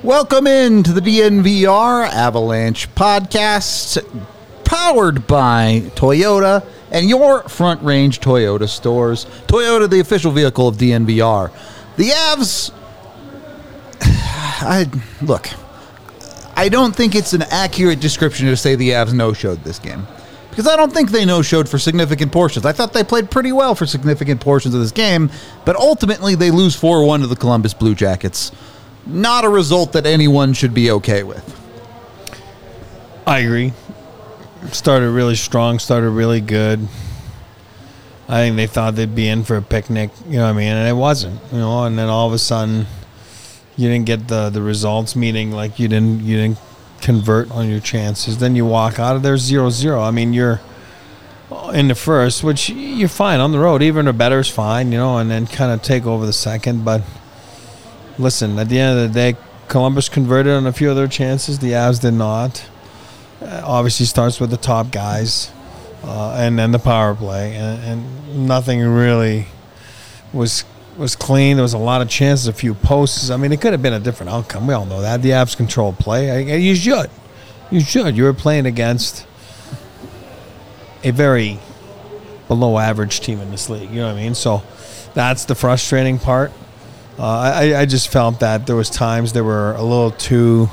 Welcome into the DNVR Avalanche podcast, powered by Toyota and your Front Range Toyota stores. Toyota, the official vehicle of DNVR. The Avs, I don't think it's an accurate description to say the Avs no-showed this game, because I don't think they no-showed for significant portions. I thought they played pretty well for significant portions of this game, but ultimately they lose 4-1 to the Columbus Blue Jackets. Not a result that anyone should be okay with. I agree. Started really strong, started really good. I think they thought they'd be in for a picnic, you know what I mean? And it wasn't, you know, and then all of a sudden you didn't get the results, meaning like you didn't convert on your chances. Then you walk out of there 0-0. I mean, you're in the first, which you're fine on the road. Even a better is fine, you know, and then kind of take over the second. But listen, at the end of the day, Columbus converted on a few of their chances. The Avs did not. Obviously starts with the top guys and then the power play. And nothing really was clean. There was a lot of chances, a few posts. I mean, it could have been a different outcome. We all know that. The Avs controlled play. You should. You should. You were playing against a very below-average team in this league. You know what I mean? So that's the frustrating part. I just felt that there was times they were a little too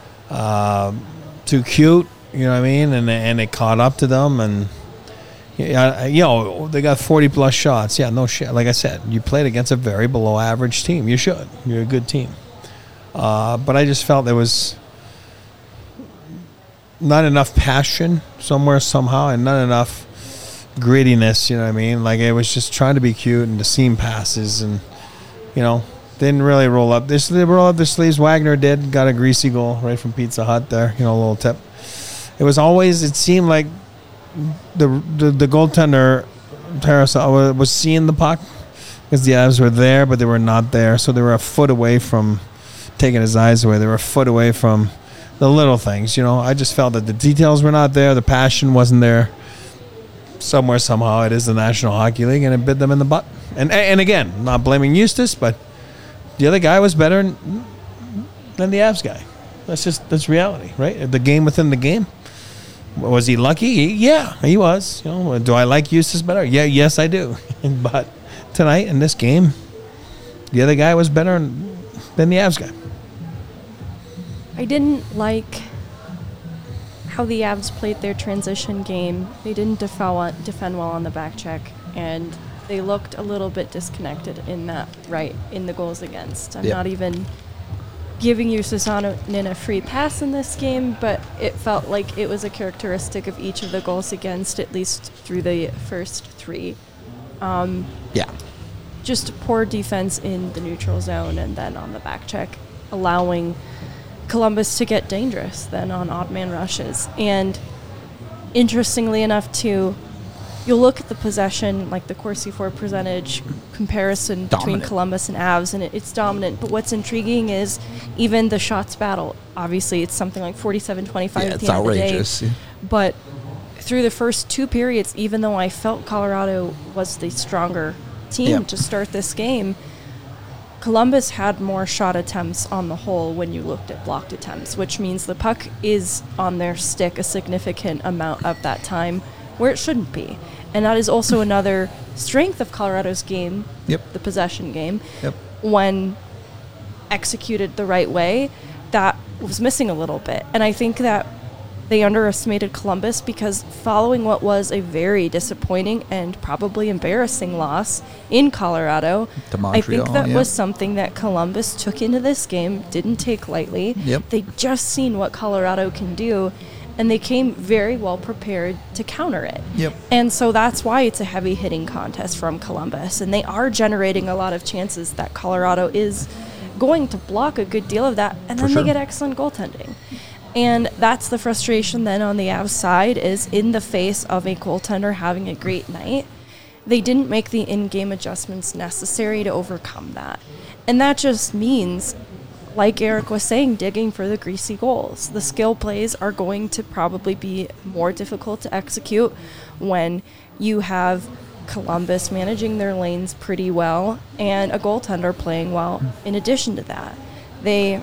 cute, you know what I mean, and they caught up to them, and you know they got 40+ shots. Yeah, no shit. Like I said, you played against a very below average team. You should. You're a good team. But I just felt there was not enough passion somewhere somehow, and not enough grittiness. You know what I mean? Like it was just trying to be cute, and the seam passes and. You know, didn't really roll up. They roll up their sleeves. Wagner did. Got a greasy goal right from Pizza Hut there. You know, a little tip. It was always, it seemed like the goaltender, Tarasenko, was seeing the puck because the Avs were there, but they were not there. So they were a foot away from taking his eyes away. They were a foot away from the little things. You know, I just felt that the details were not there. The passion wasn't there. Somewhere, somehow, it is the National Hockey League, and it bit them in the butt. And again, not blaming Eustace, but the other guy was better than the Avs guy. That's reality, right? The game within the game. Was he lucky? Yeah, he was. You know, do I like Eustace better? Yeah, yes, I do. But tonight in this game, the other guy was better than the Avs guy. I didn't like how the Avs played their transition game. They didn't defend well on the back check, and they looked a little bit disconnected in the goals against. I'm not even giving you Susanen a free pass in this game, but it felt like it was a characteristic of each of the goals against, at least through the first three. Just poor defense in the neutral zone, and then on the back check, allowing Columbus to get dangerous then on odd man rushes. And interestingly enough, too, you'll look at the possession, like the Corsi for percentage comparison between Columbus and Avs, and it's dominant. But what's intriguing is even the shots battle. Obviously, it's something like 47-25 at the end outrageous. of the day. But through the first two periods, even though I felt Colorado was the stronger team to start this game, Columbus had more shot attempts on the whole when you looked at blocked attempts, which means the puck is on their stick a significant amount of that time where it shouldn't be. And that is also another strength of Colorado's game, the possession game, when executed the right way, that was missing a little bit. And I think that they underestimated Columbus because following what was a very disappointing and probably embarrassing loss in Colorado, to Montreal, I think that was something that Columbus took into this game, didn't take lightly. They just seen what Colorado can do, and they came very well prepared to counter it. And so that's why it's a heavy-hitting contest from Columbus, and they are generating a lot of chances that Colorado is going to block a good deal of that, and then they get excellent goaltending. And that's the frustration then on the Avs side, is in the face of a goaltender having a great night, they didn't make the in-game adjustments necessary to overcome that. And that just means, like Eric was saying, digging for the greasy goals. The skill plays are going to probably be more difficult to execute when you have Columbus managing their lanes pretty well and a goaltender playing well in addition to that. They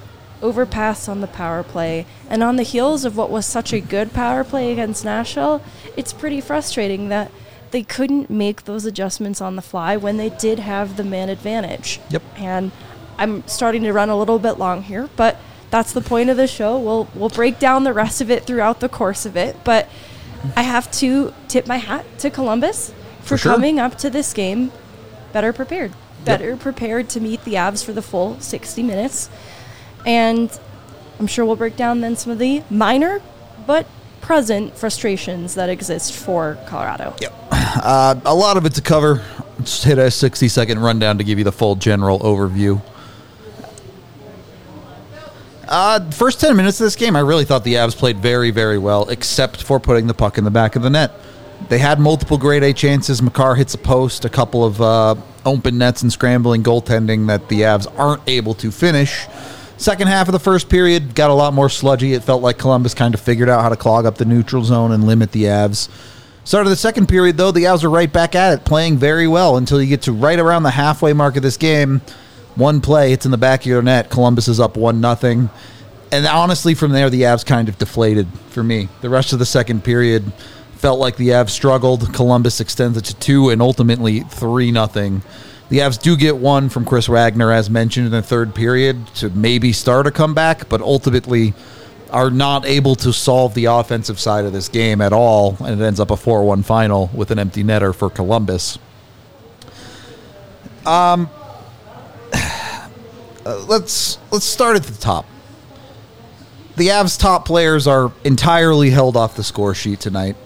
overpass on the power play. And on the heels of what was such a good power play against Nashville, it's pretty frustrating that they couldn't make those adjustments on the fly when they did have the man advantage. Yep. And I'm starting to run a little bit long here, but that's the point of the show. We'll break down the rest of it throughout the course of it. But I have to tip my hat to Columbus for coming up to this game better prepared. Better prepared to meet the Avs for the full 60 minutes. And I'm sure we'll break down then some of the minor but present frustrations that exist for Colorado. Yep. A lot of it to cover. Just hit a 60-second rundown to give you the full general overview. First 10 minutes of this game, I really thought the Avs played very, very well, except for putting the puck in the back of the net. They had multiple grade A chances. Makar hits a post, a couple of open nets and scrambling goaltending that the Avs aren't able to finish. Second half of the first period got a lot more sludgy. It felt like Columbus kind of figured out how to clog up the neutral zone and limit the Avs. Start of the second period, though, the Avs are right back at it, playing very well until you get to right around the halfway mark of this game. One play, it's in the back of your net. Columbus is up 1-0. And honestly, from there, the Avs kind of deflated for me. The rest of the second period felt like the Avs struggled. Columbus extends it to 2 and ultimately 3-0. The Avs do get one from Chris Wagner, as mentioned, in the third period to maybe start a comeback, but ultimately are not able to solve the offensive side of this game at all, and it ends up a 4-1 final with an empty netter for Columbus. Let's start at the top. The Avs' top players are entirely held off the score sheet tonight.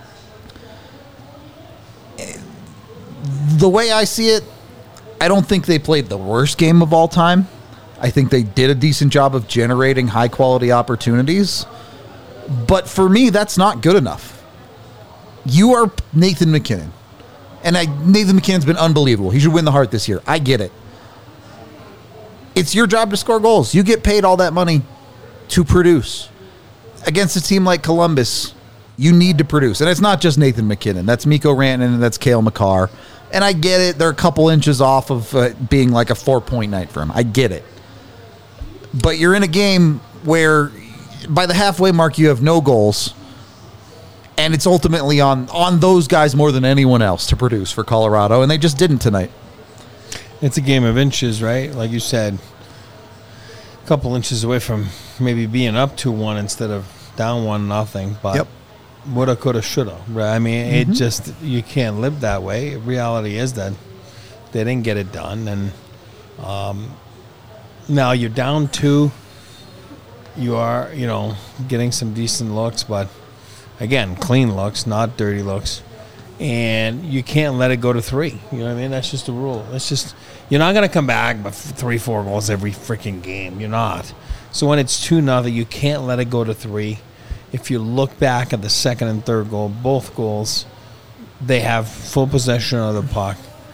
The way I see it, I don't think they played the worst game of all time. I think they did a decent job of generating high-quality opportunities. But for me, that's not good enough. You are Nathan MacKinnon. And Nathan MacKinnon's been unbelievable. He should win the Hart this year. I get it. It's your job to score goals. You get paid all that money to produce. Against a team like Columbus, you need to produce. And it's not just Nathan MacKinnon. That's Mikko Rantanen and that's Cale Makar. And I get it. They're a couple inches off of being like a 4-point night for him. I get it. But you're in a game where by the halfway mark you have no goals. And it's ultimately on those guys more than anyone else to produce for Colorado. And they just didn't tonight. It's a game of inches, right? Like you said, a couple inches away from maybe being up 2-1 instead of down 1-0. But woulda, coulda, shoulda. Right? I mean, it just, you can't live that way. Reality is that they didn't get it done. And now you're down 2. You are, getting some decent looks, but again, clean looks, not dirty looks. And you can't let it go to 3. You know what I mean? That's just the rule. It's just, you're not going to come back by 3-4 goals every freaking game. You're not. So when it's 2-0, you can't let it go to 3. If you look back at the second and third goal, both goals, they have full possession of the puck.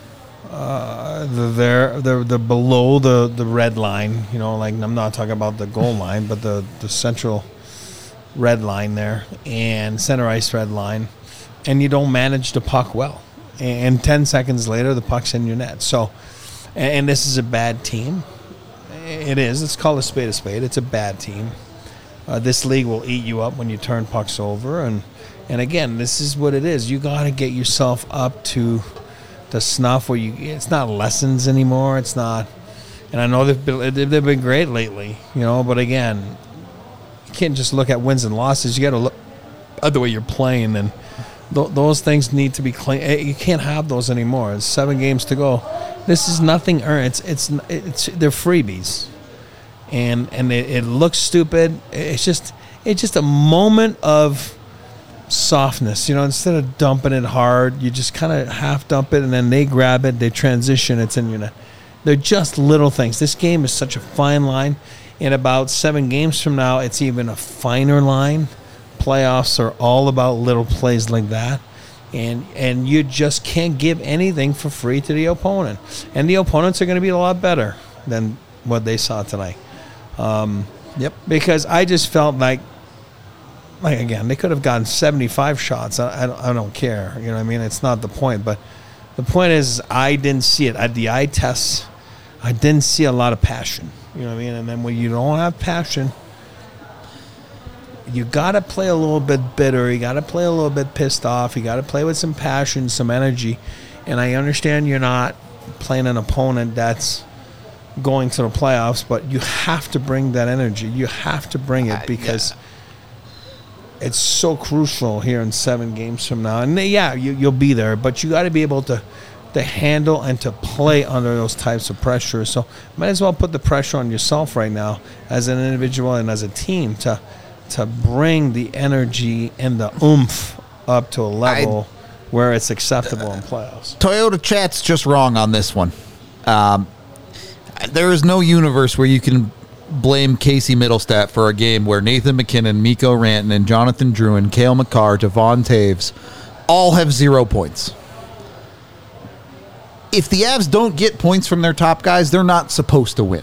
They're below the red line. Like I'm not talking about the goal line, but the central red line there and center ice red line. And you don't manage the puck well. And 10 seconds later, the puck's in your net. So, and this is a bad team. It is. Let's call a spade a spade. It's a bad team. This league will eat you up when you turn pucks over. And again, this is what it is. You got to get yourself up to the snuff where it's not lessons anymore. It's not. And I know they've been great lately, but again, you can't just look at wins and losses. You got to look at the way you're playing, and those things need to be clean. You can't have those anymore. It's 7 games to go. This is nothing earned. It's they're freebies, and it looks stupid. It's just a moment of softness. Instead of dumping it hard, you just kind of half dump it, and then they grab it, they transition, it's in your net. They're just little things. This game is such a fine line. In about 7 games from now, it's even a finer line. Playoffs are all about little plays like that, and you just can't give anything for free to the opponent, and the opponents are going to be a lot better than what they saw tonight. Because I just felt like again, they could have gotten 75 shots. I don't care. You know what I mean? It's not the point, but the point is I didn't see it at the eye tests. I didn't see a lot of passion. You know what I mean? And then when you don't have passion, you got to play a little bit bitter. You got to play a little bit pissed off. You got to play with some passion, some energy. And I understand you're not playing an opponent that's going to the playoffs, but you have to bring that energy. You have to bring it because it's so crucial here in 7 games from now. And you'll be there, but you got to be able to handle and to play under those types of pressure. So might as well put the pressure on yourself right now as an individual and as a team to bring the energy and the oomph up to a level where it's acceptable in playoffs. Toyota Chat's just wrong on this one. There is no universe where you can blame Casey Middlestat for a game where Nathan McKinnon, Mikko Rantanen, Jonathan Drouin, Cale Makar, Devon Toews all have 0 points. If the Avs don't get points from their top guys, they're not supposed to win.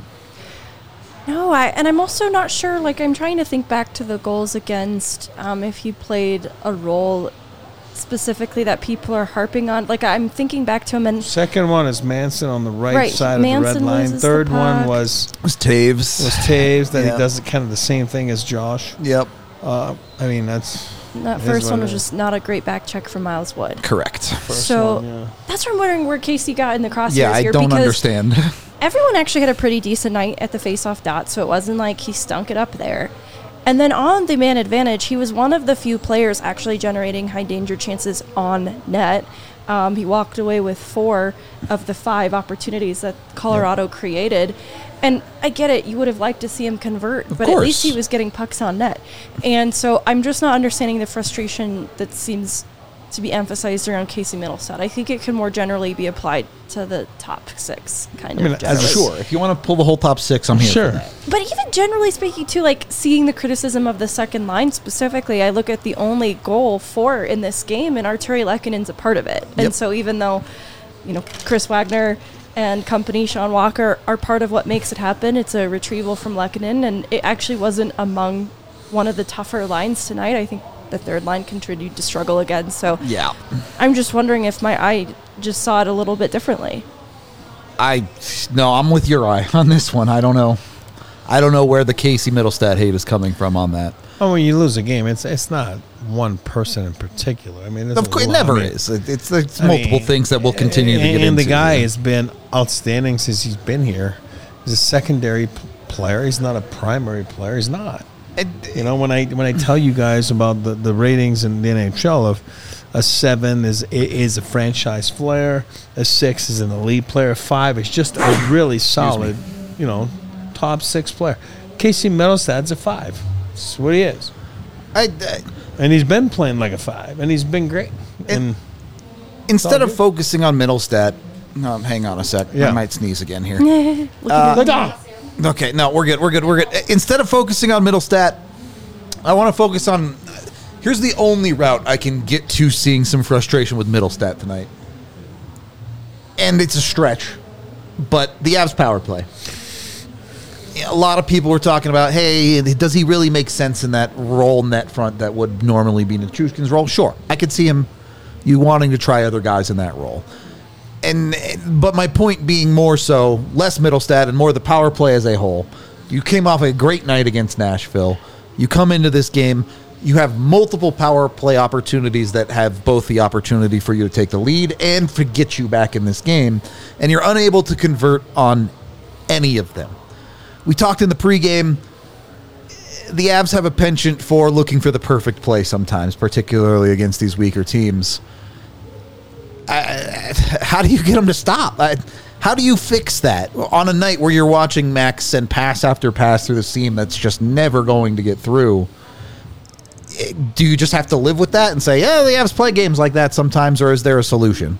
No, and I'm also not sure. Like, I'm trying to think back to the goals against, if he played a role specifically that people are harping on. Like, I'm thinking back to him. And second one is Manson on the right side Manson of the red line. Third one was Toews. That he does kind of the same thing as Josh. Yep. I mean, that first one was just not a great back check from Miles Wood. Correct. That's what I'm wondering where Casey got in the crosshairs here. Yeah, I don't understand. Everyone actually had a pretty decent night at the face-off dot, so it wasn't like he stunk it up there. And then on the man advantage, he was one of the few players actually generating high-danger chances on net. He walked away with 4 of the 5 opportunities that Colorado created. And I get it, you would have liked to see him convert, but at least he was getting pucks on net. And so I'm just not understanding the frustration that seems to be emphasized around Casey Middlestat. I think it can more generally be applied to the top 6 kind of. Sure, if you want to pull the whole top 6, I'm here for that. But even generally speaking, too, like seeing the criticism of the second line specifically, I look at the only goal for in this game, and Artturi Lehkonen's a part of it. Yep. And so even though, Chris Wagner and company, Sean Walker, are part of what makes it happen, it's a retrieval from Lehkonen, and it actually wasn't among one of the tougher lines tonight. I think the third line continued to struggle again. So I'm just wondering if my eye just saw it a little bit differently. I'm with your eye on this one. I don't know where the Casey Middlestat hate is coming from on that. Oh, when you lose a game, it's not one person in particular. I mean, of course, it never is. It's multiple things that will continue to get into. And the guy has been outstanding since he's been here. He's a secondary player. He's not a primary player. He's not. When I tell you guys about the ratings in the NHL of a 7 is a franchise player, a 6 is an elite player, a 5 is just a really solid, top 6 player. Casey Middlestat's a 5. That's what he is. And he's been playing like a 5, and he's been great. And instead of focusing on Middlestat, hang on a sec. I might sneeze again here. Okay, no, we're good. Instead of focusing on Middlestat, I want to focus on... Here's the only route I can get to seeing some frustration with Middlestat tonight. And it's a stretch, but the Avs power play. A lot of people were talking about, hey, does he really make sense in that role net front that would normally be Nichushkin's role? Sure, I could see you wanting to try other guys in that role. But my point being more so less Middlestat and more the power play as a whole. You came off a great night against Nashville. You come into this game, you have multiple power play opportunities that have both the opportunity for you to take the lead and to get you back in this game, and you're unable to convert on any of them. We talked in the pregame, the Avs have a penchant for looking for the perfect play sometimes, particularly against these weaker teams. How do you get them to stop? How do you fix that on a night where you're watching Max send pass after pass through the seam that's just never going to get through? Do you just have to live with that and say, yeah, the Avs play games like that sometimes, or is there a solution?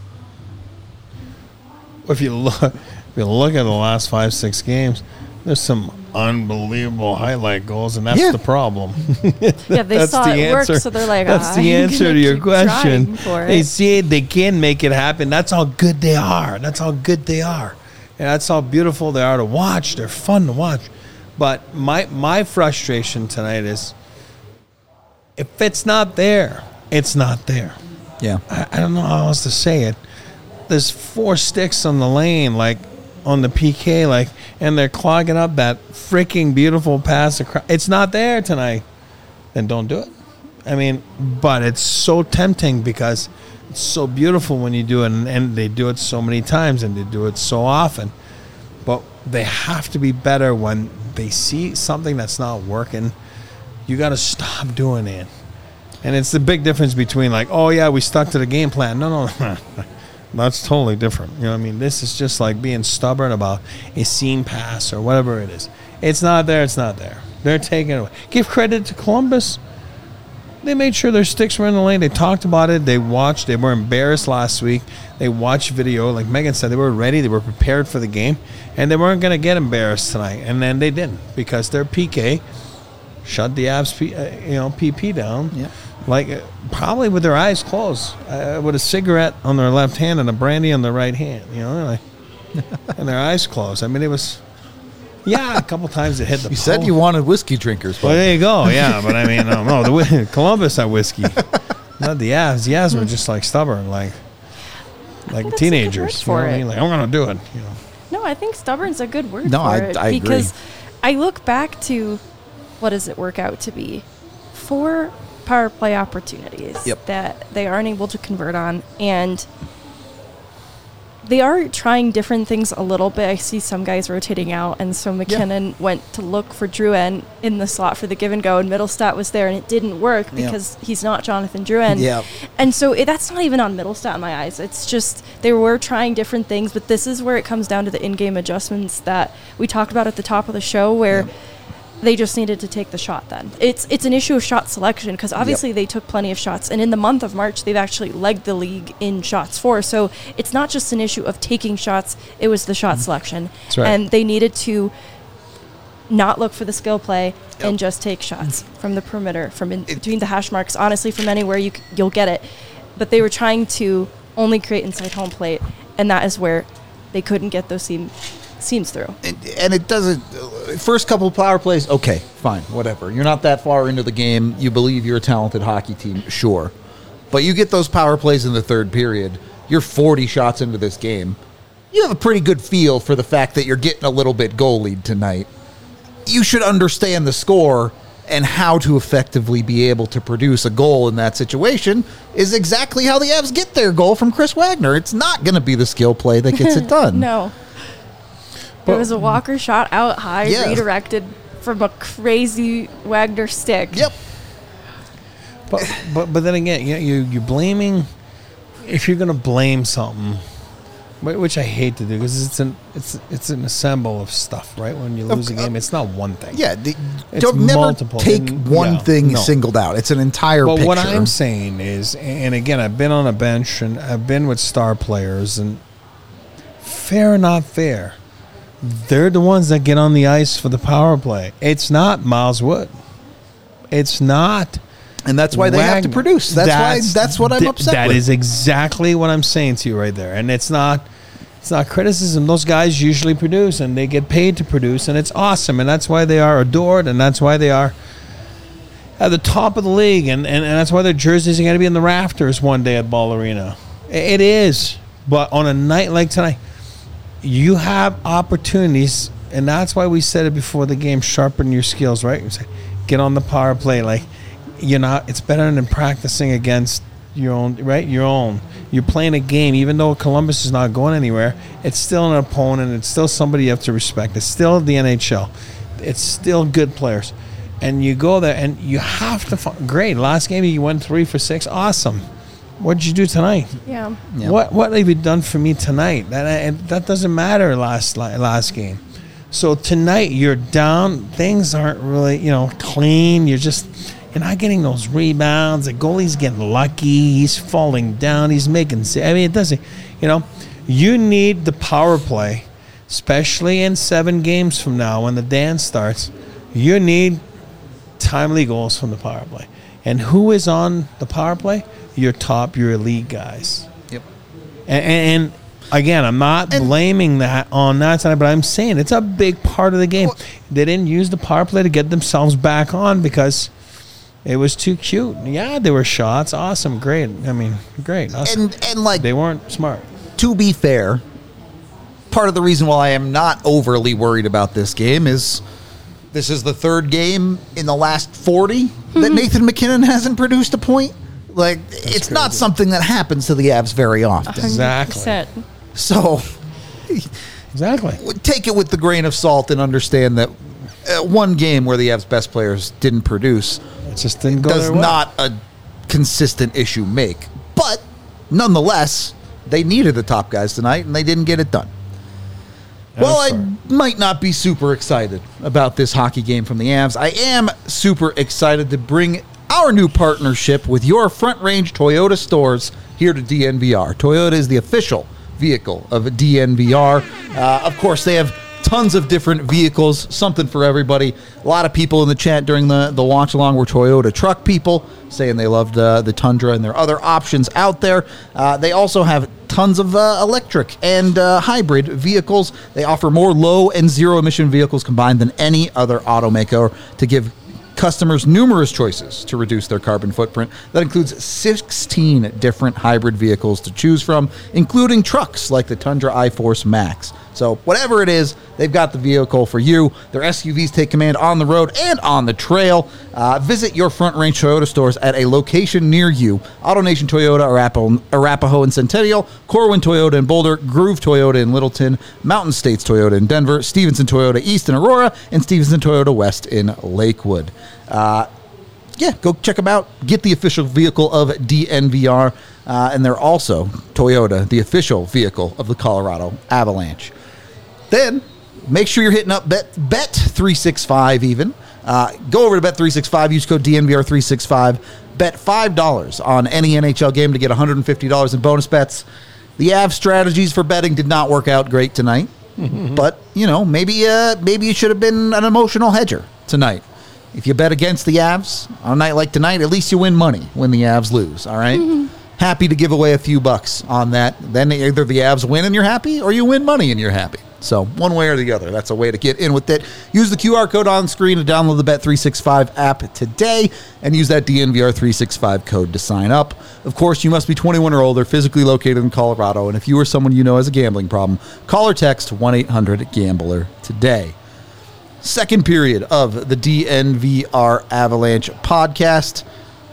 If you look at the last 5-6 games, there's some unbelievable highlight goals, and that's the problem. They saw it work, so they're like, that's the answer to your question. They see it, they can make it happen. That's how good they are. And that's how beautiful they are to watch. They're fun to watch. But my frustration tonight is, if it's not there, it's not there. Yeah. I don't know how else to say it. There's 4 sticks on the lane. Like, on the PK, like, and they're clogging up that freaking beautiful pass across. It's not there tonight. Then don't do it. I mean, but it's so tempting because it's so beautiful when you do it, and they do it so many times, and they do it so often. But they have to be better when they see something that's not working. You got to stop doing it. And it's the big difference between like, oh, yeah, we stuck to the game plan. No. That's totally different. You know what I mean? This is just like being stubborn about a seam pass or whatever it is. It's not there. It's not there. They're taking it away. Give credit to Columbus. They made sure their sticks were in the lane. They talked about it. They watched. They were embarrassed last week. They watched video. Like Megan said, they were ready. They were prepared for the game. And they weren't going to get embarrassed tonight. And then they didn't because their PK shut the Avs PP down. Yeah. Like, probably with their eyes closed, with a cigarette on their left hand and a brandy on their right hand, like, and their eyes closed. I mean, it was, a couple times it hit the You said you wanted whiskey drinkers. Well, there you go, yeah. But, I mean, no, the Columbus had whiskey. Not the Avs. The Avs were just, like, stubborn, like teenagers. You know what I mean? Like, I'm going to do it, No, I think stubborn's a good word for it. I because agree. I look back to, what does it work out to be? 4 power play opportunities that they aren't able to convert on, and they are trying different things a little bit. I see some guys rotating out, and so McKinnon went to look for Drouin in the slot for the give and go, and Middlestat was there, and it didn't work because he's not Jonathan Drouin. And so that's not even on Middlestat in my eyes. It's just they were trying different things, but this is where it comes down to the in-game adjustments that we talked about at the top of the show, where they just needed to take the shot then. It's an issue of shot selection because obviously they took plenty of shots. And in the month of March, they've actually legged the league in shots for. So it's not just an issue of taking shots. It was the shot selection. That's right. And they needed to not look for the skill play and just take shots from the perimeter, from in between the hash marks. Honestly, from anywhere you'll get it. But they were trying to only create inside home plate. And that is where they couldn't get those seams through. And it doesn't. First couple of power plays, okay, fine, whatever. You're not that far into the game. You believe you're a talented hockey team, sure. But you get those power plays in the third period. You're 40 shots into this game. You have a pretty good feel for the fact that you're getting a little bit goal lead tonight. You should understand the score and how to effectively be able to produce a goal in that situation is exactly how the Avs get their goal from Chris Wagner. It's not going to be the skill play that gets it done. No. It was a Walker shot out high, redirected from a crazy Wagner stick. Yep. But then again, you're blaming. If you're going to blame something, which I hate to do because it's an assemble of stuff, right? When you lose a game, it's not one thing. Yeah, it's don't never multiple. take one thing singled out. It's an entire picture. But what I'm saying is, and again, I've been on a bench and I've been with star players, and fair or not fair, they're the ones that get on the ice for the power play. It's not Miles Wood. It's not. And that's why they have to produce. That's what I'm upset with. That is exactly what I'm saying to you right there. And it's not criticism. Those guys usually produce, and they get paid to produce, and it's awesome. And that's why they are adored, and that's why they are at the top of the league, and that's why their jerseys are going to be in the rafters one day at Ball Arena. It is. But on a night like tonight, you have opportunities, and that's why we said it before the game, sharpen your skills, right? You say, get on the power play. Like, it's better than practicing against your own, right? Your own. You're playing a game, even though Columbus is not going anywhere, it's still an opponent. It's still somebody you have to respect. It's still the NHL. It's still good players. And you go there, and you have to great. Last game, you went 3 for 6. Awesome. What did you do tonight? Yeah. What have you done for me tonight? That doesn't matter last game. So tonight you're down. Things aren't really clean. You're not getting those rebounds. The goalie's getting lucky. He's falling down. He's making. It doesn't. You need the power play, especially in 7 games from now when the dance starts. You need timely goals from the power play. And who is on the power play? Your elite guys. Yep. And again, I'm not blaming that on that side, but I'm saying it's a big part of the game. They didn't use the power play to get themselves back on because it was too cute. Yeah, there were shots. Awesome. Great. I mean, great. Awesome. And like, they weren't smart. To be fair, part of the reason why I am not overly worried about this game is this is the third game in the last 40 that Nathan MacKinnon hasn't produced a point. Like, it's not something that happens to the Avs very often. 100%. So, exactly. Take it with the grain of salt and understand that one game where the Avs' best players didn't produce it just didn't go does not a consistent issue make. But, nonetheless, they needed the top guys tonight, and they didn't get it done. Well, I might not be super excited about this hockey game from the Avs. I am super excited to bring our new partnership with your Front Range Toyota stores here to DNVR. Toyota is the official vehicle of DNVR. Of course, they have tons of different vehicles, something for everybody. A lot of people in the chat during the watch along were Toyota truck people, saying they loved the Tundra and their other options out there. They also have tons of electric and hybrid vehicles. They offer more low and zero emission vehicles combined than any other automaker to give customers numerous choices to reduce their carbon footprint. That includes 16 different hybrid vehicles to choose from, including trucks like the Tundra iForce Max. So whatever it is, they've got the vehicle for you. Their SUVs take command on the road and on the trail. Visit your Front Range Toyota stores at a location near you. AutoNation Toyota, Arapahoe and Centennial, Corwin Toyota in Boulder, Groove Toyota in Littleton, Mountain States Toyota in Denver, Stevenson Toyota East in Aurora, and Stevenson Toyota West in Lakewood. Go check them out. Get the official vehicle of DNVR. And they're also Toyota, the official vehicle of the Colorado Avalanche. Then, make sure you're hitting up Bet365 even. Go over to Bet365, use code DNVR365. Bet $5 on any NHL game to get $150 in bonus bets. The Avs strategies for betting did not work out great tonight. But, maybe you should have been an emotional hedger tonight. If you bet against the Avs on a night like tonight, at least you win money when the Avs lose, all right? Happy to give away a few bucks on that. Then either the Avs win and you're happy, or you win money and you're happy. So one way or the other, that's a way to get in with it. Use the QR code on screen to download the Bet365 app today and use that DNVR365 code to sign up. Of course, you must be 21 or older, physically located in Colorado, and if you or someone you know has a gambling problem, call or text 1-800-GAMBLER today. Second period of the DNVR Avalanche podcast.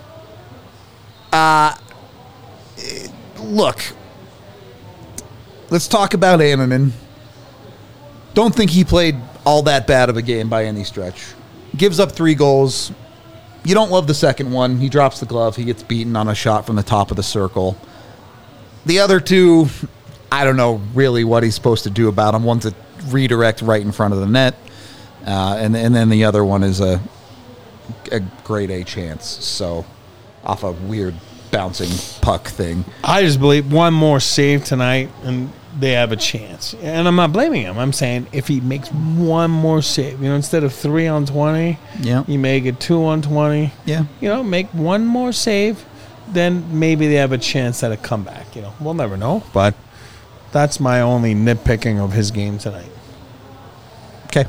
Look, let's talk about Annunen. Don't think he played all that bad of a game by any stretch. Gives up 3 goals. You don't love the second one. He drops the glove. He gets beaten on a shot from the top of the circle. The other 2, I don't know really what he's supposed to do about them. One's a redirect right in front of the net. And then the other one is a grade A chance. So off a weird bouncing puck thing. I just believe one more save tonight and they have a chance. And I'm not blaming him. I'm saying if he makes one more save, instead of 3 on 20, you make it 2 on 20. Yeah. Make one more save, then maybe they have a chance at a comeback. We'll never know. But that's my only nitpicking of his game tonight. Okay.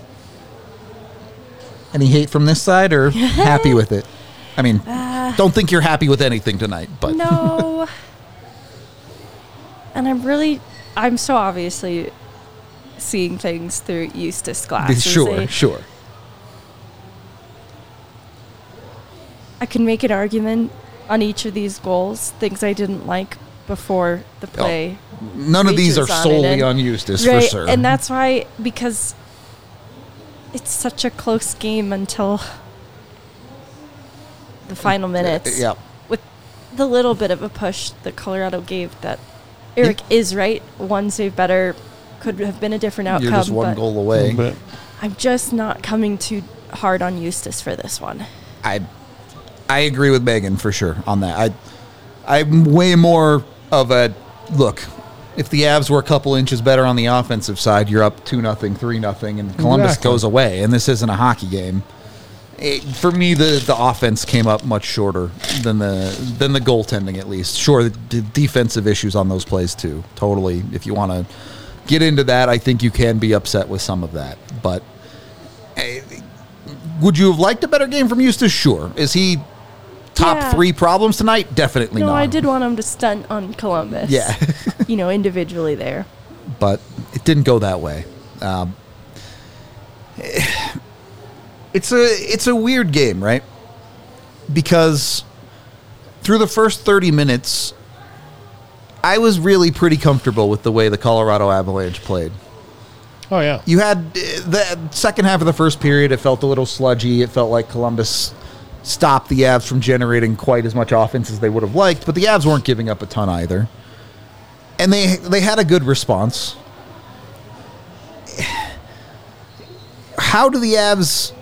Any hate from this side or happy with it? I mean, don't think you're happy with anything tonight, but no. And I'm so obviously seeing things through Eustace glasses. Sure. I can make an argument on each of these goals, things I didn't like before the play. None of these are solely on Eustace, right, for sure. And that's why, because it's such a close game until the final minutes. Yeah. With the little bit of a push that Colorado gave, that Eric is right. One save better could have been a different outcome. You're just one goal away. I'm just not coming too hard on Eustace for this one. I agree with Megan for sure on that. I'm way more of a look. If the Avs were a couple inches better on the offensive side, you're up 2-0, 3-0, and Columbus goes away. And this isn't a hockey game. For me, the offense came up much shorter than the goaltending, at least. Sure, the defensive issues on those plays too. Totally. If you want to get into that, I think you can be upset with some of that. But would you have liked a better game from Eustace? Sure. Is he top 3 problems tonight? Definitely not. No, I did want him to stunt on Columbus. Yeah. Individually there. but it didn't go that way. It's a weird game, right? Because through the first 30 minutes, I was really pretty comfortable with the way the Colorado Avalanche played. Oh, yeah. You had the second half of the first period, it felt a little sludgy. It felt like Columbus stopped the Avs from generating quite as much offense as they would have liked, but the Avs weren't giving up a ton either. And they had a good response. How do the Avs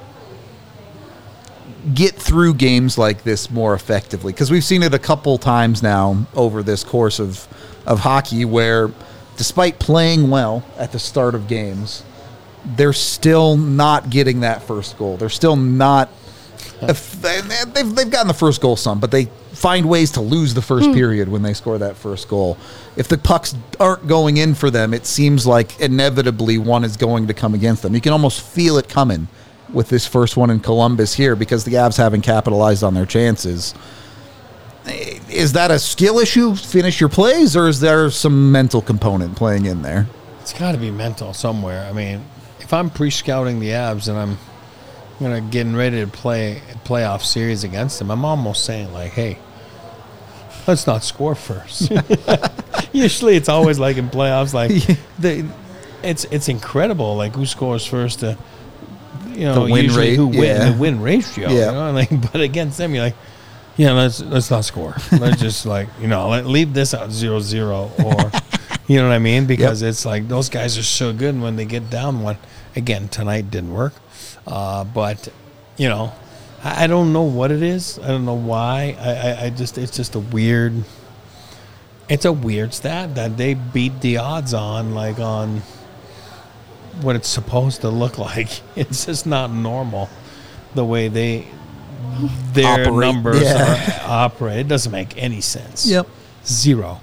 get through games like this more effectively? Because we've seen it a couple times now over this course of hockey where, despite playing well at the start of games, they're still not getting that first goal. They're still not... They've gotten the first goal some, but they find ways to lose the first period when they score that first goal. If the pucks aren't going in for them, it seems like inevitably one is going to come against them. You can almost feel it coming with this first one in Columbus here because the Avs haven't capitalized on their chances. Is that a skill issue, finish your plays, or is there some mental component playing in there? It's got to be mental somewhere. I mean, if I'm pre-scouting the Avs and I'm getting ready to play a playoff series against them, I'm almost saying, like, hey, let's not score first. Usually it's always like in playoffs, like it's incredible, like who scores first to, the win rate, the win ratio. But against them, you're like, let's not score. Let's just leave this out 0-0, or you know what I mean? Because it's like those guys are so good, and when they get down one, again, tonight didn't work. But I don't know what it is. I don't know why. It's just a weird stat that they beat the odds on what it's supposed to look like. It's just not normal the way their numbers operate. It doesn't make any sense. Yep. Zero.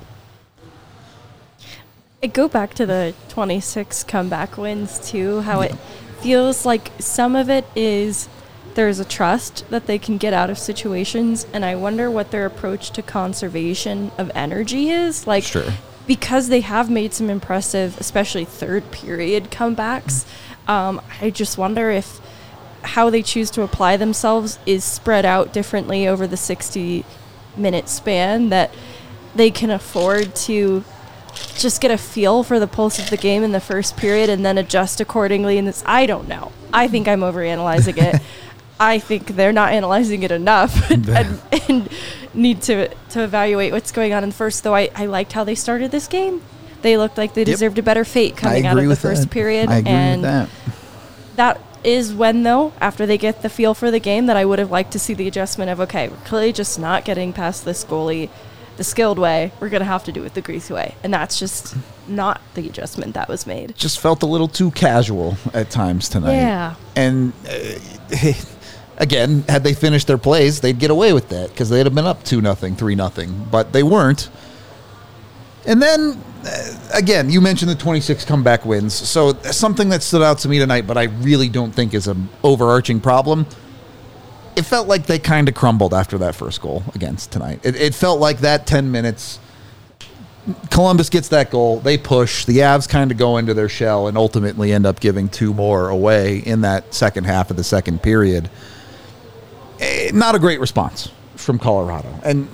I go back to the 26 comeback wins too, how it feels like some of it is there's a trust that they can get out of situations, and I wonder what their approach to conservation of energy is. Because they have made some impressive, especially third period comebacks, I just wonder if how they choose to apply themselves is spread out differently over the 60-minute span, that they can afford to just get a feel for the pulse of the game in the first period and then adjust accordingly. And I don't know. I think I'm overanalyzing it. I think they're not analyzing it enough and need to evaluate what's going on in the first. Though I liked how they started this game. They looked like they deserved a better fate coming out of the first period. I agree with that. That is when, though, after they get the feel for the game, that I would have liked to see the adjustment of, okay, we're clearly just not getting past this goalie the skilled way. We're going to have to do it the greasy way. And that's just not the adjustment that was made. Just felt a little too casual at times tonight. Yeah. And again, had they finished their plays, they'd get away with that because they'd have been up 2-0, 3-0. But they weren't. And then, again, you mentioned the 26 comeback wins. So something that stood out to me tonight, but I really don't think is an overarching problem. It felt like they kind of crumbled after that first goal against tonight. It felt like that 10 minutes, Columbus gets that goal, they push, the Avs kind of go into their shell and ultimately end up giving 2 more away in that second half of the second period. Not a great response from Colorado. And,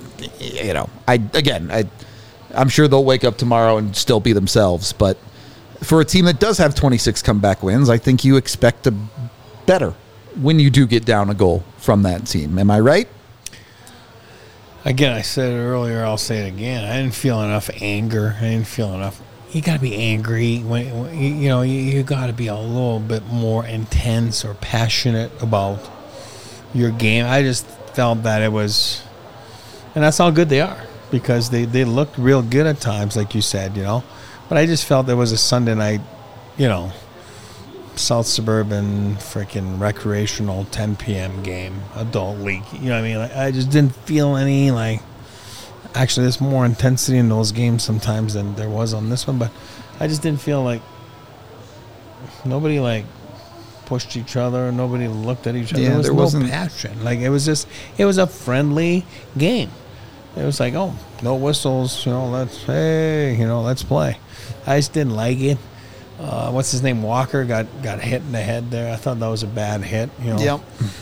I'm sure they'll wake up tomorrow and still be themselves. But for a team that does have 26 comeback wins, I think you expect a better when you do get down a goal from that team. Am I right? Again, I said it earlier, I'll say it again. I didn't feel enough anger. I didn't feel enough. You got to be angry. You got to be a little bit more intense or passionate about your game. I just felt that it was, and that's how good they are, because they looked real good at times, like you said, But I just felt there was a Sunday night, South Suburban freaking recreational 10 p.m. game, adult league. You know what I mean? I just didn't feel any, actually there's more intensity in those games sometimes than there was on this one, but I just didn't feel like nobody pushed each other, nobody looked at each other. There was no passion. It was a friendly game. It was like, oh, no whistles, let's play. I just didn't like it. What's his name? Walker got hit in the head there. I thought that was a bad hit. Yep.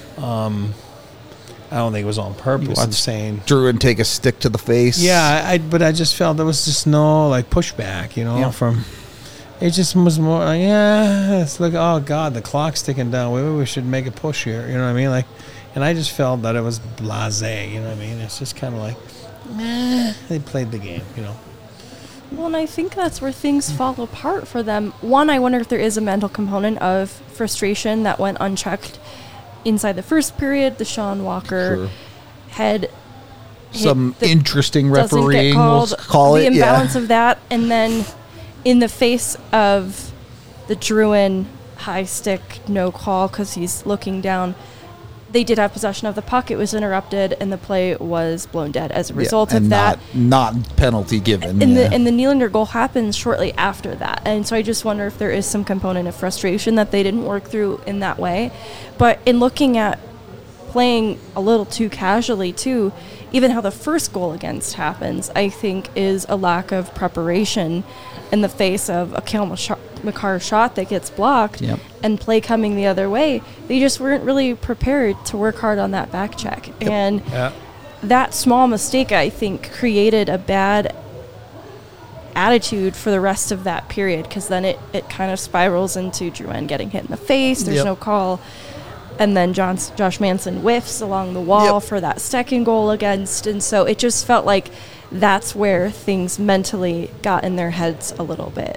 I don't think it was on purpose. I'm saying Drouin take a stick to the face. Yeah, but I just felt there was just no pushback. From it just was more like, it's like, oh God, the clock's ticking down. Maybe we should make a push here. You know what I mean? And I just felt that it was blasé. You know what I mean? It's just kind of like, they played the game. Well, and I think that's where things fall apart for them. One, I wonder if there is a mental component of frustration that went unchecked inside the first period. The Sean Walker head some interesting refereeing, we'll call it. The imbalance of that. And then in the face of the Drouin high stick, no call because he's looking down, they did have possession of the puck. It was interrupted, and the play was blown dead as a result of that. Not penalty given. And the Nylander goal happens shortly after that. And so I just wonder if there is some component of frustration that they didn't work through in that way. But in looking at playing a little too casually, too, even how the first goal against happens, I think is a lack of preparation in the face of a Cale Makar shot that gets blocked and play coming the other way. They just weren't really prepared to work hard on that back check. And that small mistake, I think, created a bad attitude for the rest of that period, because then it kind of spirals into Drouin getting hit in the face. There's no call. And then Josh Manson whiffs along the wall for that second goal against. And so it just felt like that's where things mentally got in their heads a little bit.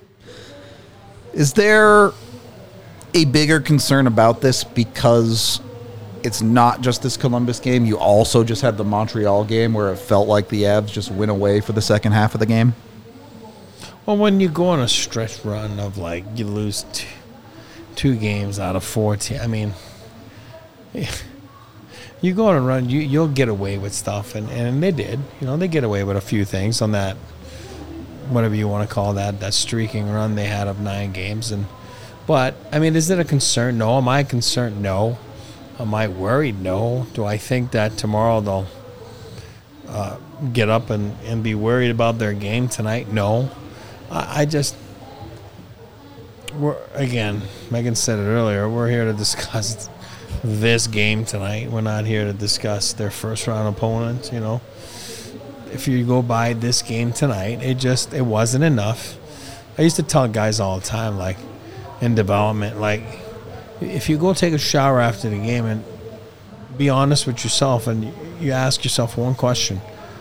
Is there a bigger concern about this because it's not just this Columbus game? You also just had the Montreal game where it felt like the Avs just went away for the second half of the game? Well, when you go on a stretch run of you lose two games out of 14, I mean, you go on a run, you'll get away with stuff, and they did. They get away with a few things on that, whatever you want to call that streaking run they had of 9 games. But I mean, is it a concern? No. Am I concerned? No. Am I worried? No. Do I think that tomorrow they'll get up and be worried about their game tonight? No. Again, Megan said it earlier, we're here to discuss this game tonight. We're not here to discuss their first round opponent. If you go by this game tonight, it wasn't enough. I used to tell guys all the time, in development, if you go take a shower after the game and be honest with yourself and you ask yourself one question: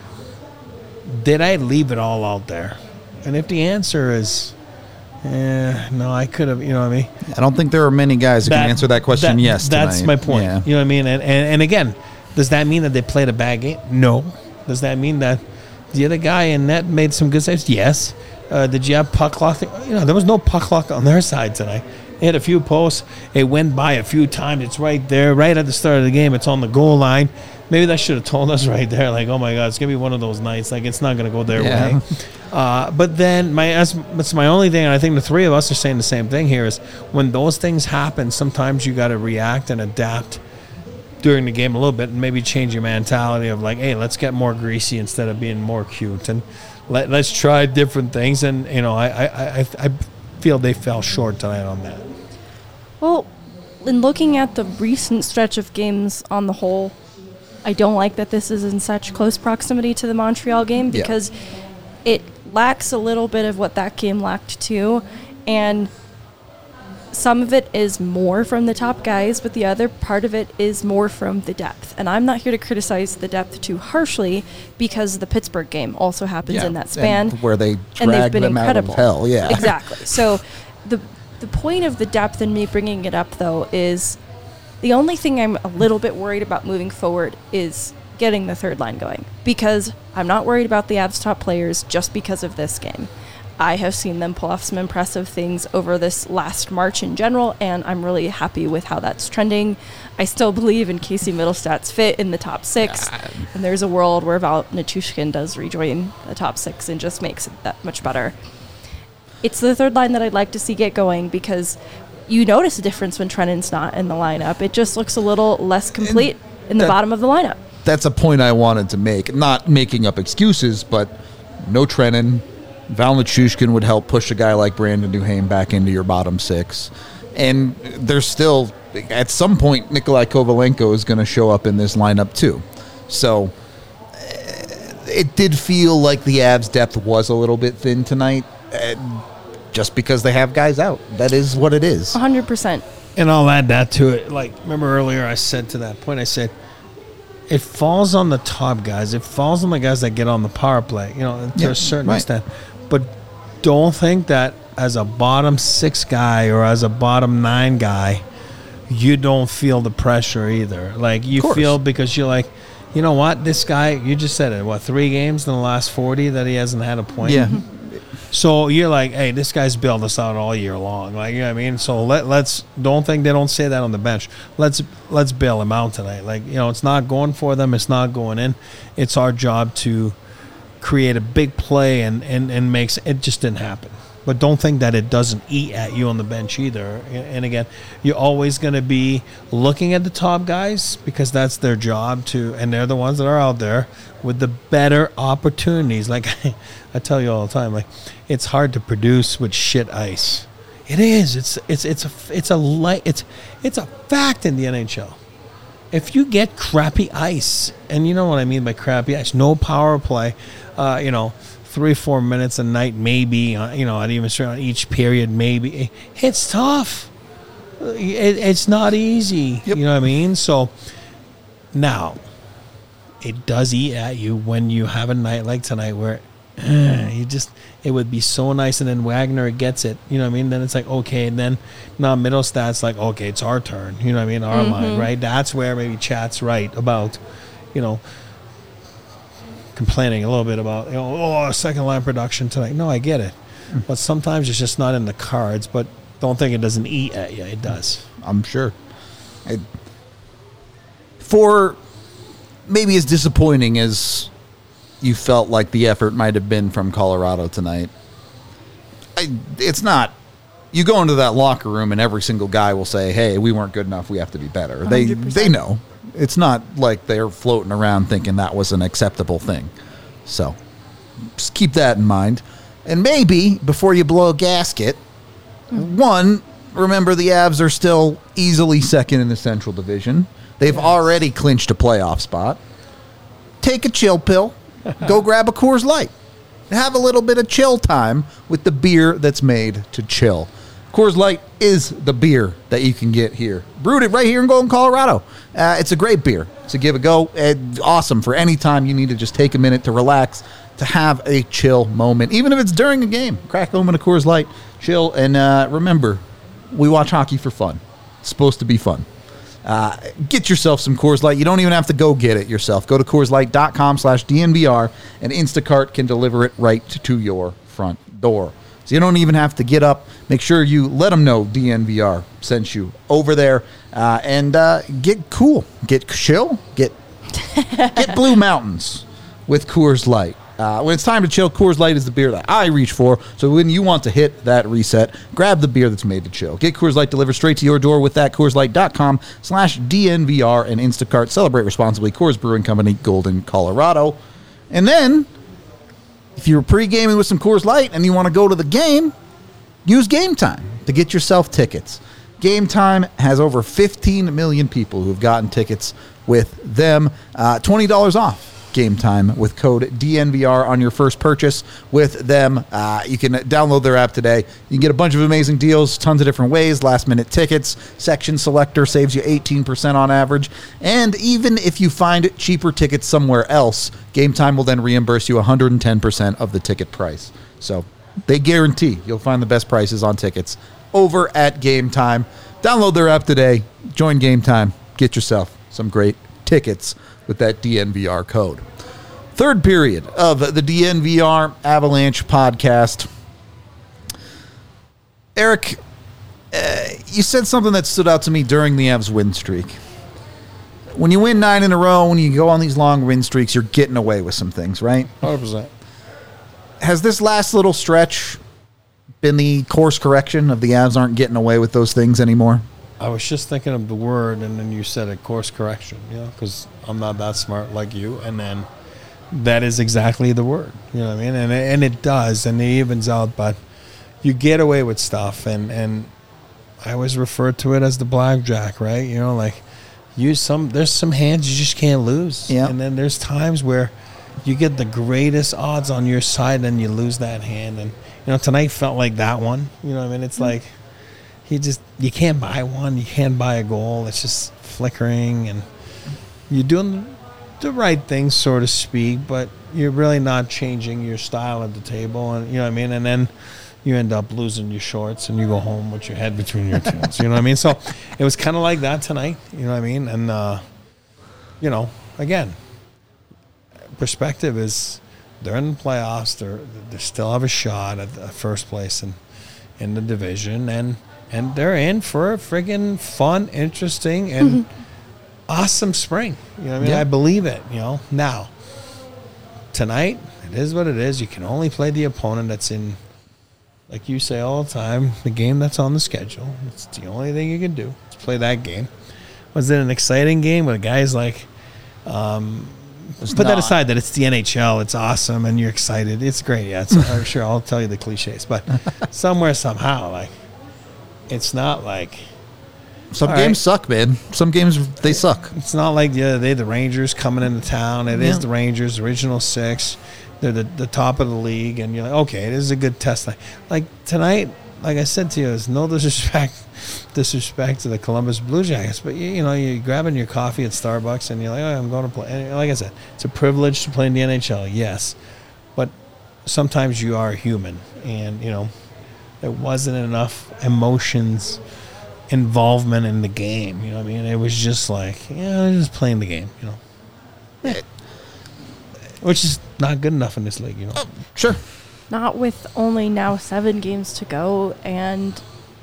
did I leave it all out there? And if the answer is no, I could have, you know what I mean? I don't think there are many guys who can answer that question yes tonight. That's my point. Yeah. You know what I mean? And again, does that mean that they played a bad game? No. Does that mean that the other guy in net made some good saves? Yes. Did you have puck luck? There was no puck luck on their side tonight. They had a few posts. It went by a few times. It's right there, right at the start of the game. It's on the goal line. Maybe that should have told us right there, oh my God, it's going to be one of those nights. It's not going to go their way. But then that's my only thing, and I think the three of us are saying the same thing here, is when those things happen, sometimes you got to react and adapt during the game a little bit and maybe change your mentality of hey, let's get more greasy instead of being more cute, and let's try different things. And, I feel they fell short tonight on that. Well, in looking at the recent stretch of games on the whole, I don't like that this is in such close proximity to the Montreal game, because it lacks a little bit of what that game lacked too. And some of it is more from the top guys, but the other part of it is more from the depth. And I'm not here to criticize the depth too harshly, because the Pittsburgh game also happens in that span. Where they drag them out of hell. Yeah. Exactly. So the point of the depth in me bringing it up, though, is the only thing I'm a little bit worried about moving forward is getting the third line going, because I'm not worried about the Avs' top players just because of this game. I have seen them pull off some impressive things over this last March in general, and I'm really happy with how that's trending. I still believe in Casey Middlestad's fit in the top 6, and there's a world where Val Nichushkin does rejoin the top 6 and just makes it that much better. It's the third line that I'd like to see get going, because you notice a difference when Trennan's not in the lineup. It just looks a little less complete in the bottom of the lineup. that's a point I wanted to make. Not making up excuses, but no Trenin. Val Nichushkin would help push a guy like Brandon Duhaime back into your bottom six. And there's still, at some point, Nikolai Kovalenko is going to show up in this lineup too. So it did feel like the Avs' depth was a little bit thin tonight, just because they have guys out. That is what it is. 100%. And I'll add that to it. Like, remember earlier I said to that point, I said, it falls on the top guys. It falls on the guys that get on the power play, to a certain extent. But don't think that as a bottom 6 guy or as a bottom 9 guy, you don't feel the pressure either. Like, you feel, because you're like, you know what, this guy, you just said it, 3 games in the last 40 that he hasn't had a point? Yeah. So you're like, hey, this guy's bailed us out all year long. Like, you know what I mean? So let's don't think they don't say that on the bench. Let's bail him out tonight. Like, it's not going for them. It's not going in. It's our job to create a big play and makes it just didn't happen. But don't think that it doesn't eat at you on the bench either. And again, you're always going to be looking at the top guys because that's their job to, and they're the ones that are out there with the better opportunities. Like I tell you all the time, like, it's hard to produce with shit ice. It is. It's a fact in the NHL. If you get crappy ice, and you know what I mean by crappy ice, no power play, 3-4 minutes a night, maybe, at even on each period, maybe. It's tough. It's not easy. Yep. You know what I mean? So now, it does eat at you when you have a night like tonight where it would be so nice, and then Wagner gets it. You know what I mean? Then it's like, okay, and then now Middlestad's like, okay, it's our turn. You know what I mean? Our line, right? That's where maybe Chat's right about, complaining a little bit about, second line production tonight. No, I get it. But sometimes it's just not in the cards. But don't think it doesn't eat at you. It does. I'm sure. For maybe as disappointing as you felt like the effort might have been from Colorado tonight, it's not. You go into that locker room and every single guy will say, hey, we weren't good enough. We have to be better. 100%. They know. It's not like they're floating around thinking that was an acceptable thing. So just keep that in mind. And maybe before you blow a gasket, one, remember the Avs are still easily second in the Central Division. They've already clinched a playoff spot. Take a chill pill. Go grab a Coors Light. Have a little bit of chill time with the beer that's made to chill. Coors Light is the beer that you can get here. Brewed it right here in Golden, Colorado. It's a great beer to give a go. Awesome for any time you need to just take a minute to relax, to have a chill moment. Even if it's during a game, crack open a Coors Light, chill, and remember, we watch hockey for fun. It's supposed to be fun. Get yourself some Coors Light. You don't even have to go get it yourself. Go to CoorsLight.com/DNVR, and Instacart can deliver it right to your front door. So you don't even have to get up. Make sure you let them know DNVR sent you over there, and get cool, get chill, get Blue Mountains with Coors Light. When it's time to chill, Coors Light is the beer that I reach for. So when you want to hit that reset, grab the beer that's made to chill. Get Coors Light delivered straight to your door with that. CoorsLight.com/DNVR and Instacart. Celebrate responsibly. Coors Brewing Company, Golden, Colorado. And then, if you're pre-gaming with some Coors Light and you want to go to the game, use Game Time to get yourself tickets. Game Time has over 15 million people who've gotten tickets with them. $20 off Game Time with code DNVR on your first purchase with them. You can download their app today. You can get a bunch of amazing deals, tons of different ways, last-minute tickets, section selector saves you 18% on average, and even if you find cheaper tickets somewhere else, Game Time will then reimburse you 110% of the ticket price. So they guarantee you'll find the best prices on tickets over at Game Time. Download their app today, join Game Time, get yourself some great tickets with that DNVR code. Third period of the DNVR Avalanche podcast. Eric, you said something that stood out to me during the Avs win streak. When you win 9 in a row, when you go on these long win streaks, you're getting away with some things, right? 100%. Has this last little stretch been the course correction of the Avs aren't getting away with those things anymore? I was just thinking of the word, and then you said it, course correction, because I'm not that smart like you. And then that is exactly the word, you know what I mean? And it does, and it evens out, but you get away with stuff. And I always refer to it as the blackjack, right? There's some hands you just can't lose. Yeah. And then there's times where you get the greatest odds on your side and you lose that hand. And, tonight felt like that one. You know what I mean? It's like you can't buy one. You can't buy a goal. It's just flickering. And you're doing the right thing, so to speak, but you're really not changing your style at the table. And you know what I mean? And then you end up losing your shorts and you go home with your head between your teeth. You know what I mean? So it was kind of like that tonight. You know what I mean? And, again, perspective is they're in the playoffs. They still have a shot at the first place in the division. And they're in for a friggin' fun, interesting, and awesome spring. You know what I mean? Yeah. I believe it, Now, tonight, it is what it is. You can only play the opponent that's in, like you say all the time, the game that's on the schedule. It's the only thing you can do is play that game. Was it an exciting game with guys like put that aside that it's the NHL, it's awesome and you're excited. It's great, yeah. I'm sure I'll tell you the cliches, but somewhere, somehow, it's not like some games suck, man. Some games, they suck. It's not like the other day the Rangers coming into town. It is the Rangers, original six. They're the top of the league, and you're like, okay, this is a good test. Like tonight, like I said to you, there's no disrespect to the Columbus Blue Jackets, but you're grabbing your coffee at Starbucks, and you're like, oh, I'm going to play. And like I said, it's a privilege to play in the NHL, yes, but sometimes you are human, and there wasn't enough emotions, involvement in the game. You know what I mean? It was just like, I'm just playing the game. Which is not good enough in this league, Sure. Not with only now 7 games to go and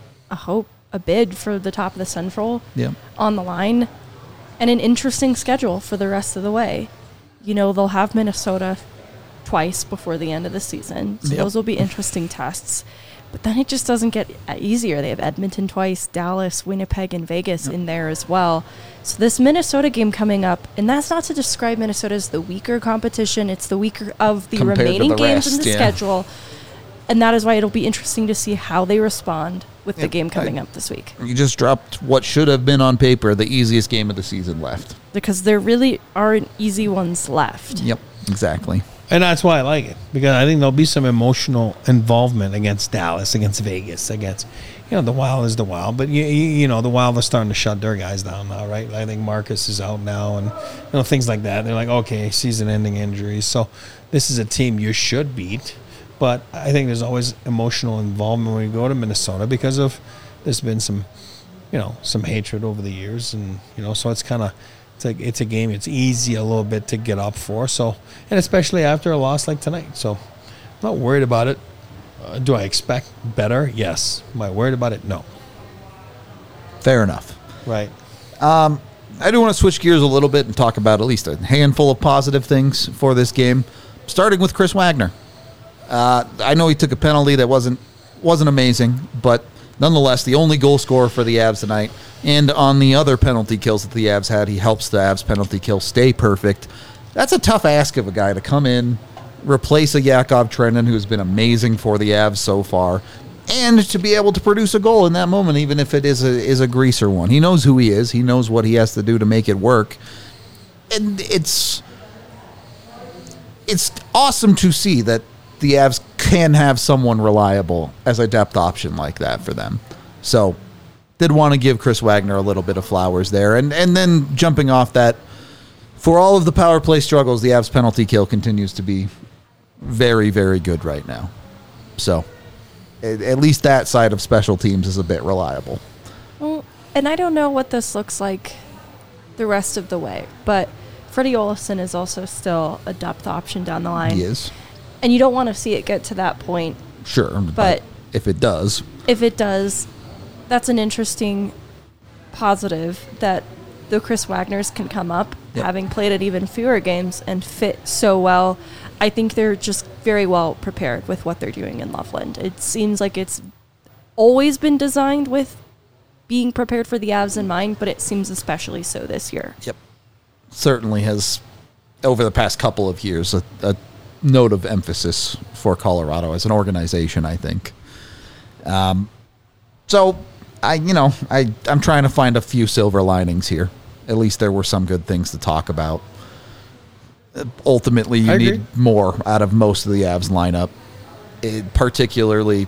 a bid for the top of the Central on the line, and an interesting schedule for the rest of the way. They'll have Minnesota twice before the end of the season, so those will be interesting tests. But then it just doesn't get easier. They have Edmonton twice, Dallas, Winnipeg, and Vegas in there as well. So this Minnesota game coming up, and that's not to describe Minnesota as the weaker competition. It's the weaker of the remaining games in the schedule. And that is why it'll be interesting to see how they respond with the game coming up this week. You just dropped what should have been on paper the easiest game of the season left. Because there really aren't easy ones left. Yep, exactly. And that's why I like it, because I think there'll be some emotional involvement against Dallas, against Vegas, against, the Wild is the Wild. But, the Wild are starting to shut their guys down now, right? I think Marcus is out now and, things like that. They're like, okay, season-ending injuries. So this is a team you should beat. But I think there's always emotional involvement when you go to Minnesota because there's been some, some hatred over the years. And, so it's kind of, it's a game it's easy a little bit to get up for. So, and especially after a loss like tonight. So I'm not worried about it. Do I expect better? Yes. Am I worried about it? No. Fair enough. Right. I do want to switch gears a little bit and talk about at least a handful of positive things for this game, starting with Chris Wagner. I know he took a penalty that wasn't amazing, but nonetheless, the only goal scorer for the Avs tonight. And on the other penalty kills that the Avs had, he helps the Avs penalty kill stay perfect. That's a tough ask of a guy to come in, replace a Yakov Trenin, who's been amazing for the Avs so far, and to be able to produce a goal in that moment, even if it is a greaser one. He knows who he is. He knows what he has to do to make it work. And it's awesome to see that the Avs can have someone reliable as a depth option like that for them. So, did want to give Chris Wagner a little bit of flowers there. And then jumping off that, for all of the power play struggles, the Avs penalty kill continues to be very, very good right now. So, at least that side of special teams is a bit reliable. Well, and I don't know what this looks like the rest of the way, but Freddie Olofsson is also still a depth option down the line. He is. And you don't want to see it get to that point. Sure, but if it does, that's an interesting positive that the Chris Wagners can come up, having played at even fewer games and fit so well. I think they're just very well prepared with what they're doing in Loveland. It seems like it's always been designed with being prepared for the Avs in mind, but it seems especially so this year. Yep. Certainly has, over the past couple of years, a note of emphasis for Colorado as an organization, I think. So, I'm trying to find a few silver linings here. At least there were some good things to talk about. Ultimately, you need more out of most of the Avs lineup. Particularly,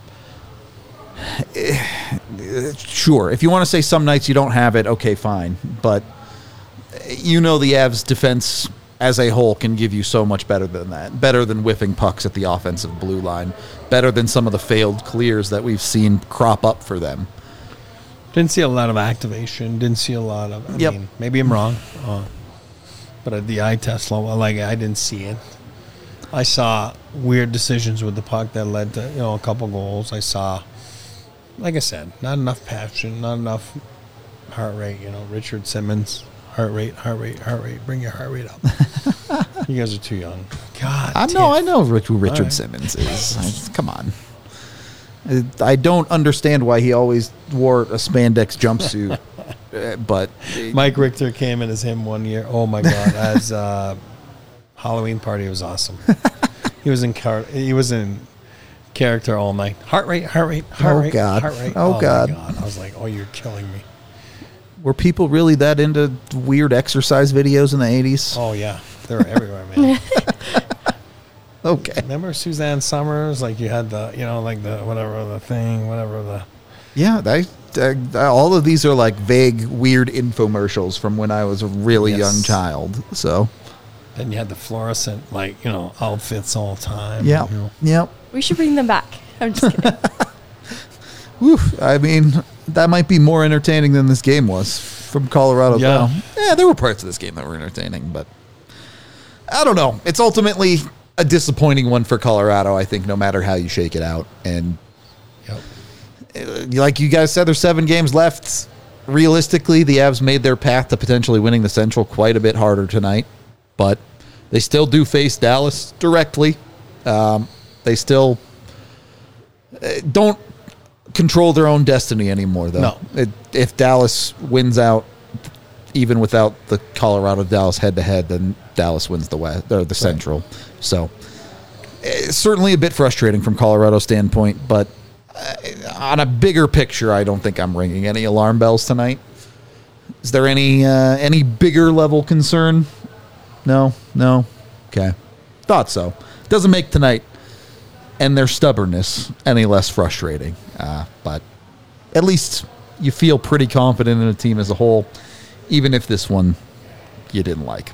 sure, if you want to say some nights you don't have it, okay, fine. But the Avs defense as a whole can give you so much better than that. Better than whiffing pucks at the offensive blue line. Better than some of the failed clears that we've seen crop up for them. Didn't see a lot of activation. Didn't see a lot of... I mean, maybe I'm wrong. But at the eye test level, I didn't see it. I saw weird decisions with the puck that led to, a couple goals. I saw, like I said, not enough passion, not enough heart rate. Richard Simmons, heart rate. Bring your heart rate up. You guys are too young. God. I know who Richard Simmons is. Come on. I don't understand why he always wore a spandex jumpsuit, but Mike Richter came in as him one year. Oh my God! As Halloween party, it was awesome. He was in character all night. Heart rate. Oh God! Heart rate. Oh God! My God. I was like, oh, you're killing me. Were people really that into weird exercise videos in the 80s? Oh yeah, they were everywhere, man. Okay. Remember Suzanne Summers? Like you had the, Yeah, all of these are like vague, weird infomercials from when I was a really young child. So. Then you had the fluorescent, outfits all the time. Yeah. Yep. We should bring them back. I'm just kidding. Woof. I mean, that might be more entertaining than this game was from Colorado. Yeah. Yeah, there were parts of this game that were entertaining, but I don't know. It's ultimately a disappointing one for Colorado, I think, no matter how you shake it out. And like you guys said, there's 7 games left. Realistically, the Avs made their path to potentially winning the Central quite a bit harder tonight, but they still do face Dallas directly. They still don't control their own destiny anymore, though. No. If Dallas wins out, even without the Colorado-Dallas head-to-head, then Dallas wins the West or the Central. So it's certainly a bit frustrating from Colorado's standpoint, but on a bigger picture, I don't think I'm ringing any alarm bells tonight. Is there any bigger level concern? No? Okay. Thought so. Doesn't make tonight and their stubbornness any less frustrating. But at least you feel pretty confident in a team as a whole, even if this one you didn't like.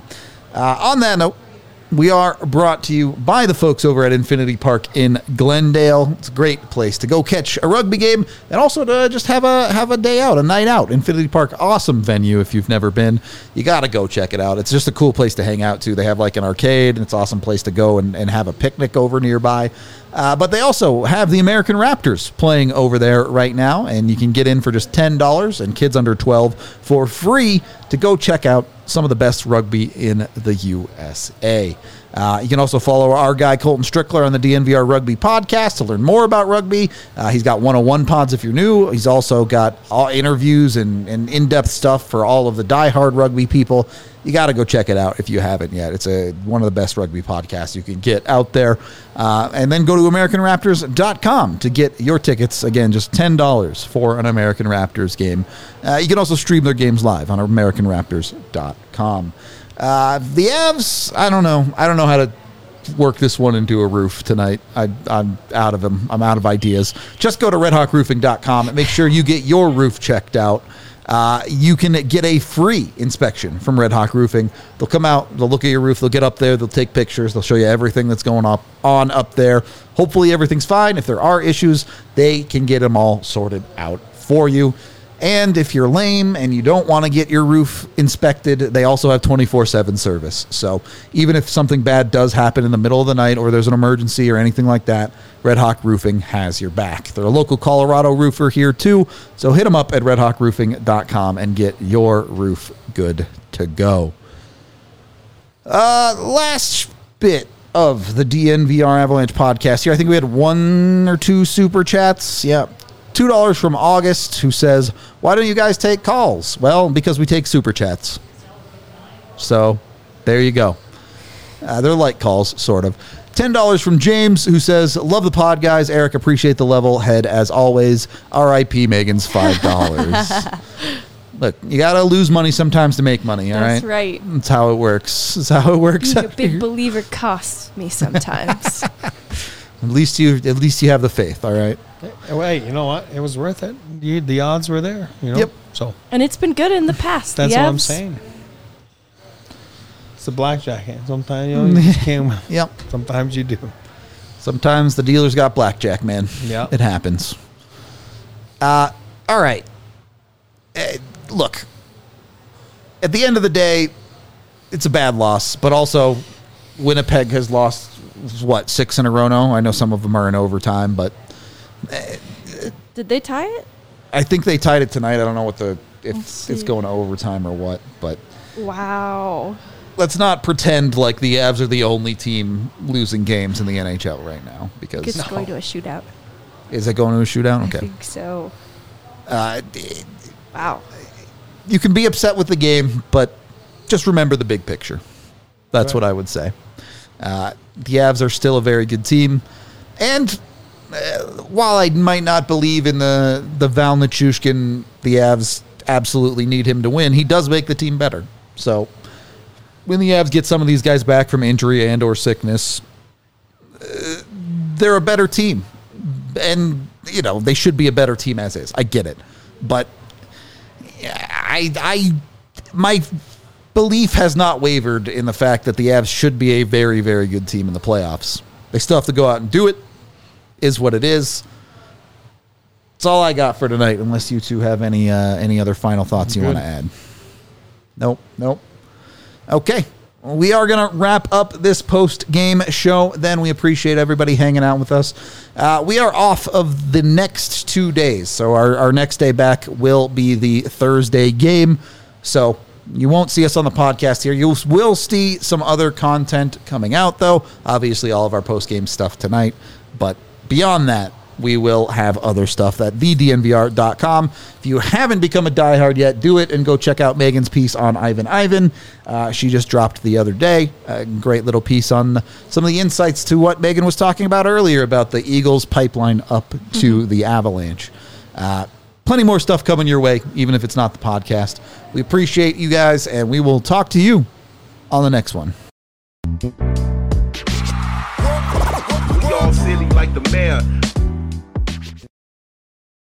On that note, we are brought to you by the folks over at Infinity Park in Glendale. It's a great place to go catch a rugby game and also to just have a day out, a night out. Infinity Park, awesome venue if you've never been. You got to go check it out. It's just a cool place to hang out to. They have like an arcade, and it's an awesome place to go and have a picnic over nearby. But they also have the American Raptors playing over there right now, and you can get in for just $10 and kids under 12 for free to go check out some of the best rugby in the USA. You can also follow our guy Colton Strickler on the DNVR Rugby podcast to learn more about rugby. He's got 101 pods if you're new. He's also got all interviews and in-depth stuff for all of the diehard rugby people. You got to go check it out if you haven't yet. It's one of the best rugby podcasts you can get out there. And then go to AmericanRaptors.com to get your tickets. Again, just $10 for an American Raptors game. You can also stream their games live on AmericanRaptors.com. The Avs, I don't know how to work this one into a roof tonight. I'm out of them. I'm out of ideas. Just go to RedHawkRoofing.com and make sure you get your roof checked out. You can get a free inspection from Red Hawk Roofing. They'll come out, they'll look at your roof, they'll get up there, they'll take pictures, they'll show you everything that's going on up there. Hopefully everything's fine. If there are issues, they can get them all sorted out for you. And if you're lame and you don't want to get your roof inspected, they also have 24/7 service. So even if something bad does happen in the middle of the night or there's an emergency or anything like that, Red Hawk Roofing has your back. They're a local Colorado roofer here too, so hit them up at redhawkroofing.com and get your roof good to go. Last bit of the DNVR Avalanche podcast here. I think we had 1 or 2 super chats. Yeah. $2 from August, who says, why don't you guys take calls? Well, because we take super chats. So there you go. They're like calls, sort of. $10 from James, who says, love the pod, guys. Eric, appreciate the level head as always. R.I.P. Megan's $5. Look, you got to lose money sometimes to make money, all right? That's right. That's how it works. That's how it works. Being a big believer costs me sometimes. At least you have the faith, all right? Wait, you know what? It was worth it. The odds were there, you know? Yep. So. And it's been good in the past. That's what I'm saying. It's a blackjack hand. Sometimes you just can't. Yep. Sometimes you do. Sometimes the dealer's got blackjack, man. Yeah. It happens. All right. Look, at the end of the day, it's a bad loss, but also Winnipeg has lost, 6 in a row now? I know some of them are in overtime, but... Did they tie it? I think they tied it tonight. I don't know if it's going to overtime or what, but... Wow. Let's not pretend like the Avs are the only team losing games in the NHL right now, because... It's going to a shootout. Is it going to a shootout? Okay. I think so. Wow. You can be upset with the game, but just remember the big picture. That's what I would say. The Avs are still a very good team. And while I might not believe in the Val Nichushkin, the Avs absolutely need him to win, he does make the team better. So when the Avs get some of these guys back from injury and or sickness, they're a better team. And, they should be a better team as is. I get it. But my belief has not wavered in the fact that the Avs should be a very, very good team in the playoffs. They still have to go out and do it. Is what it is. That's all I got for tonight, unless you two have any other final thoughts you want to add. Nope. Okay. Well, we are going to wrap up this post-game show. Then we appreciate everybody hanging out with us. We are off of the next 2 days, so our next day back will be the Thursday game. So you won't see us on the podcast here. You will see some other content coming out, though. Obviously, all of our post-game stuff tonight. But beyond that, we will have other stuff at thednvr.com. If you haven't become a diehard yet, do it and go check out Megan's piece on Ivan. She just dropped the other day. A great little piece on some of the insights to what Megan was talking about earlier about the Eagles pipeline up to the Avalanche. Plenty more stuff coming your way, even if it's not the podcast. We appreciate you guys, and we will talk to you on the next one. We all silly like the mayor.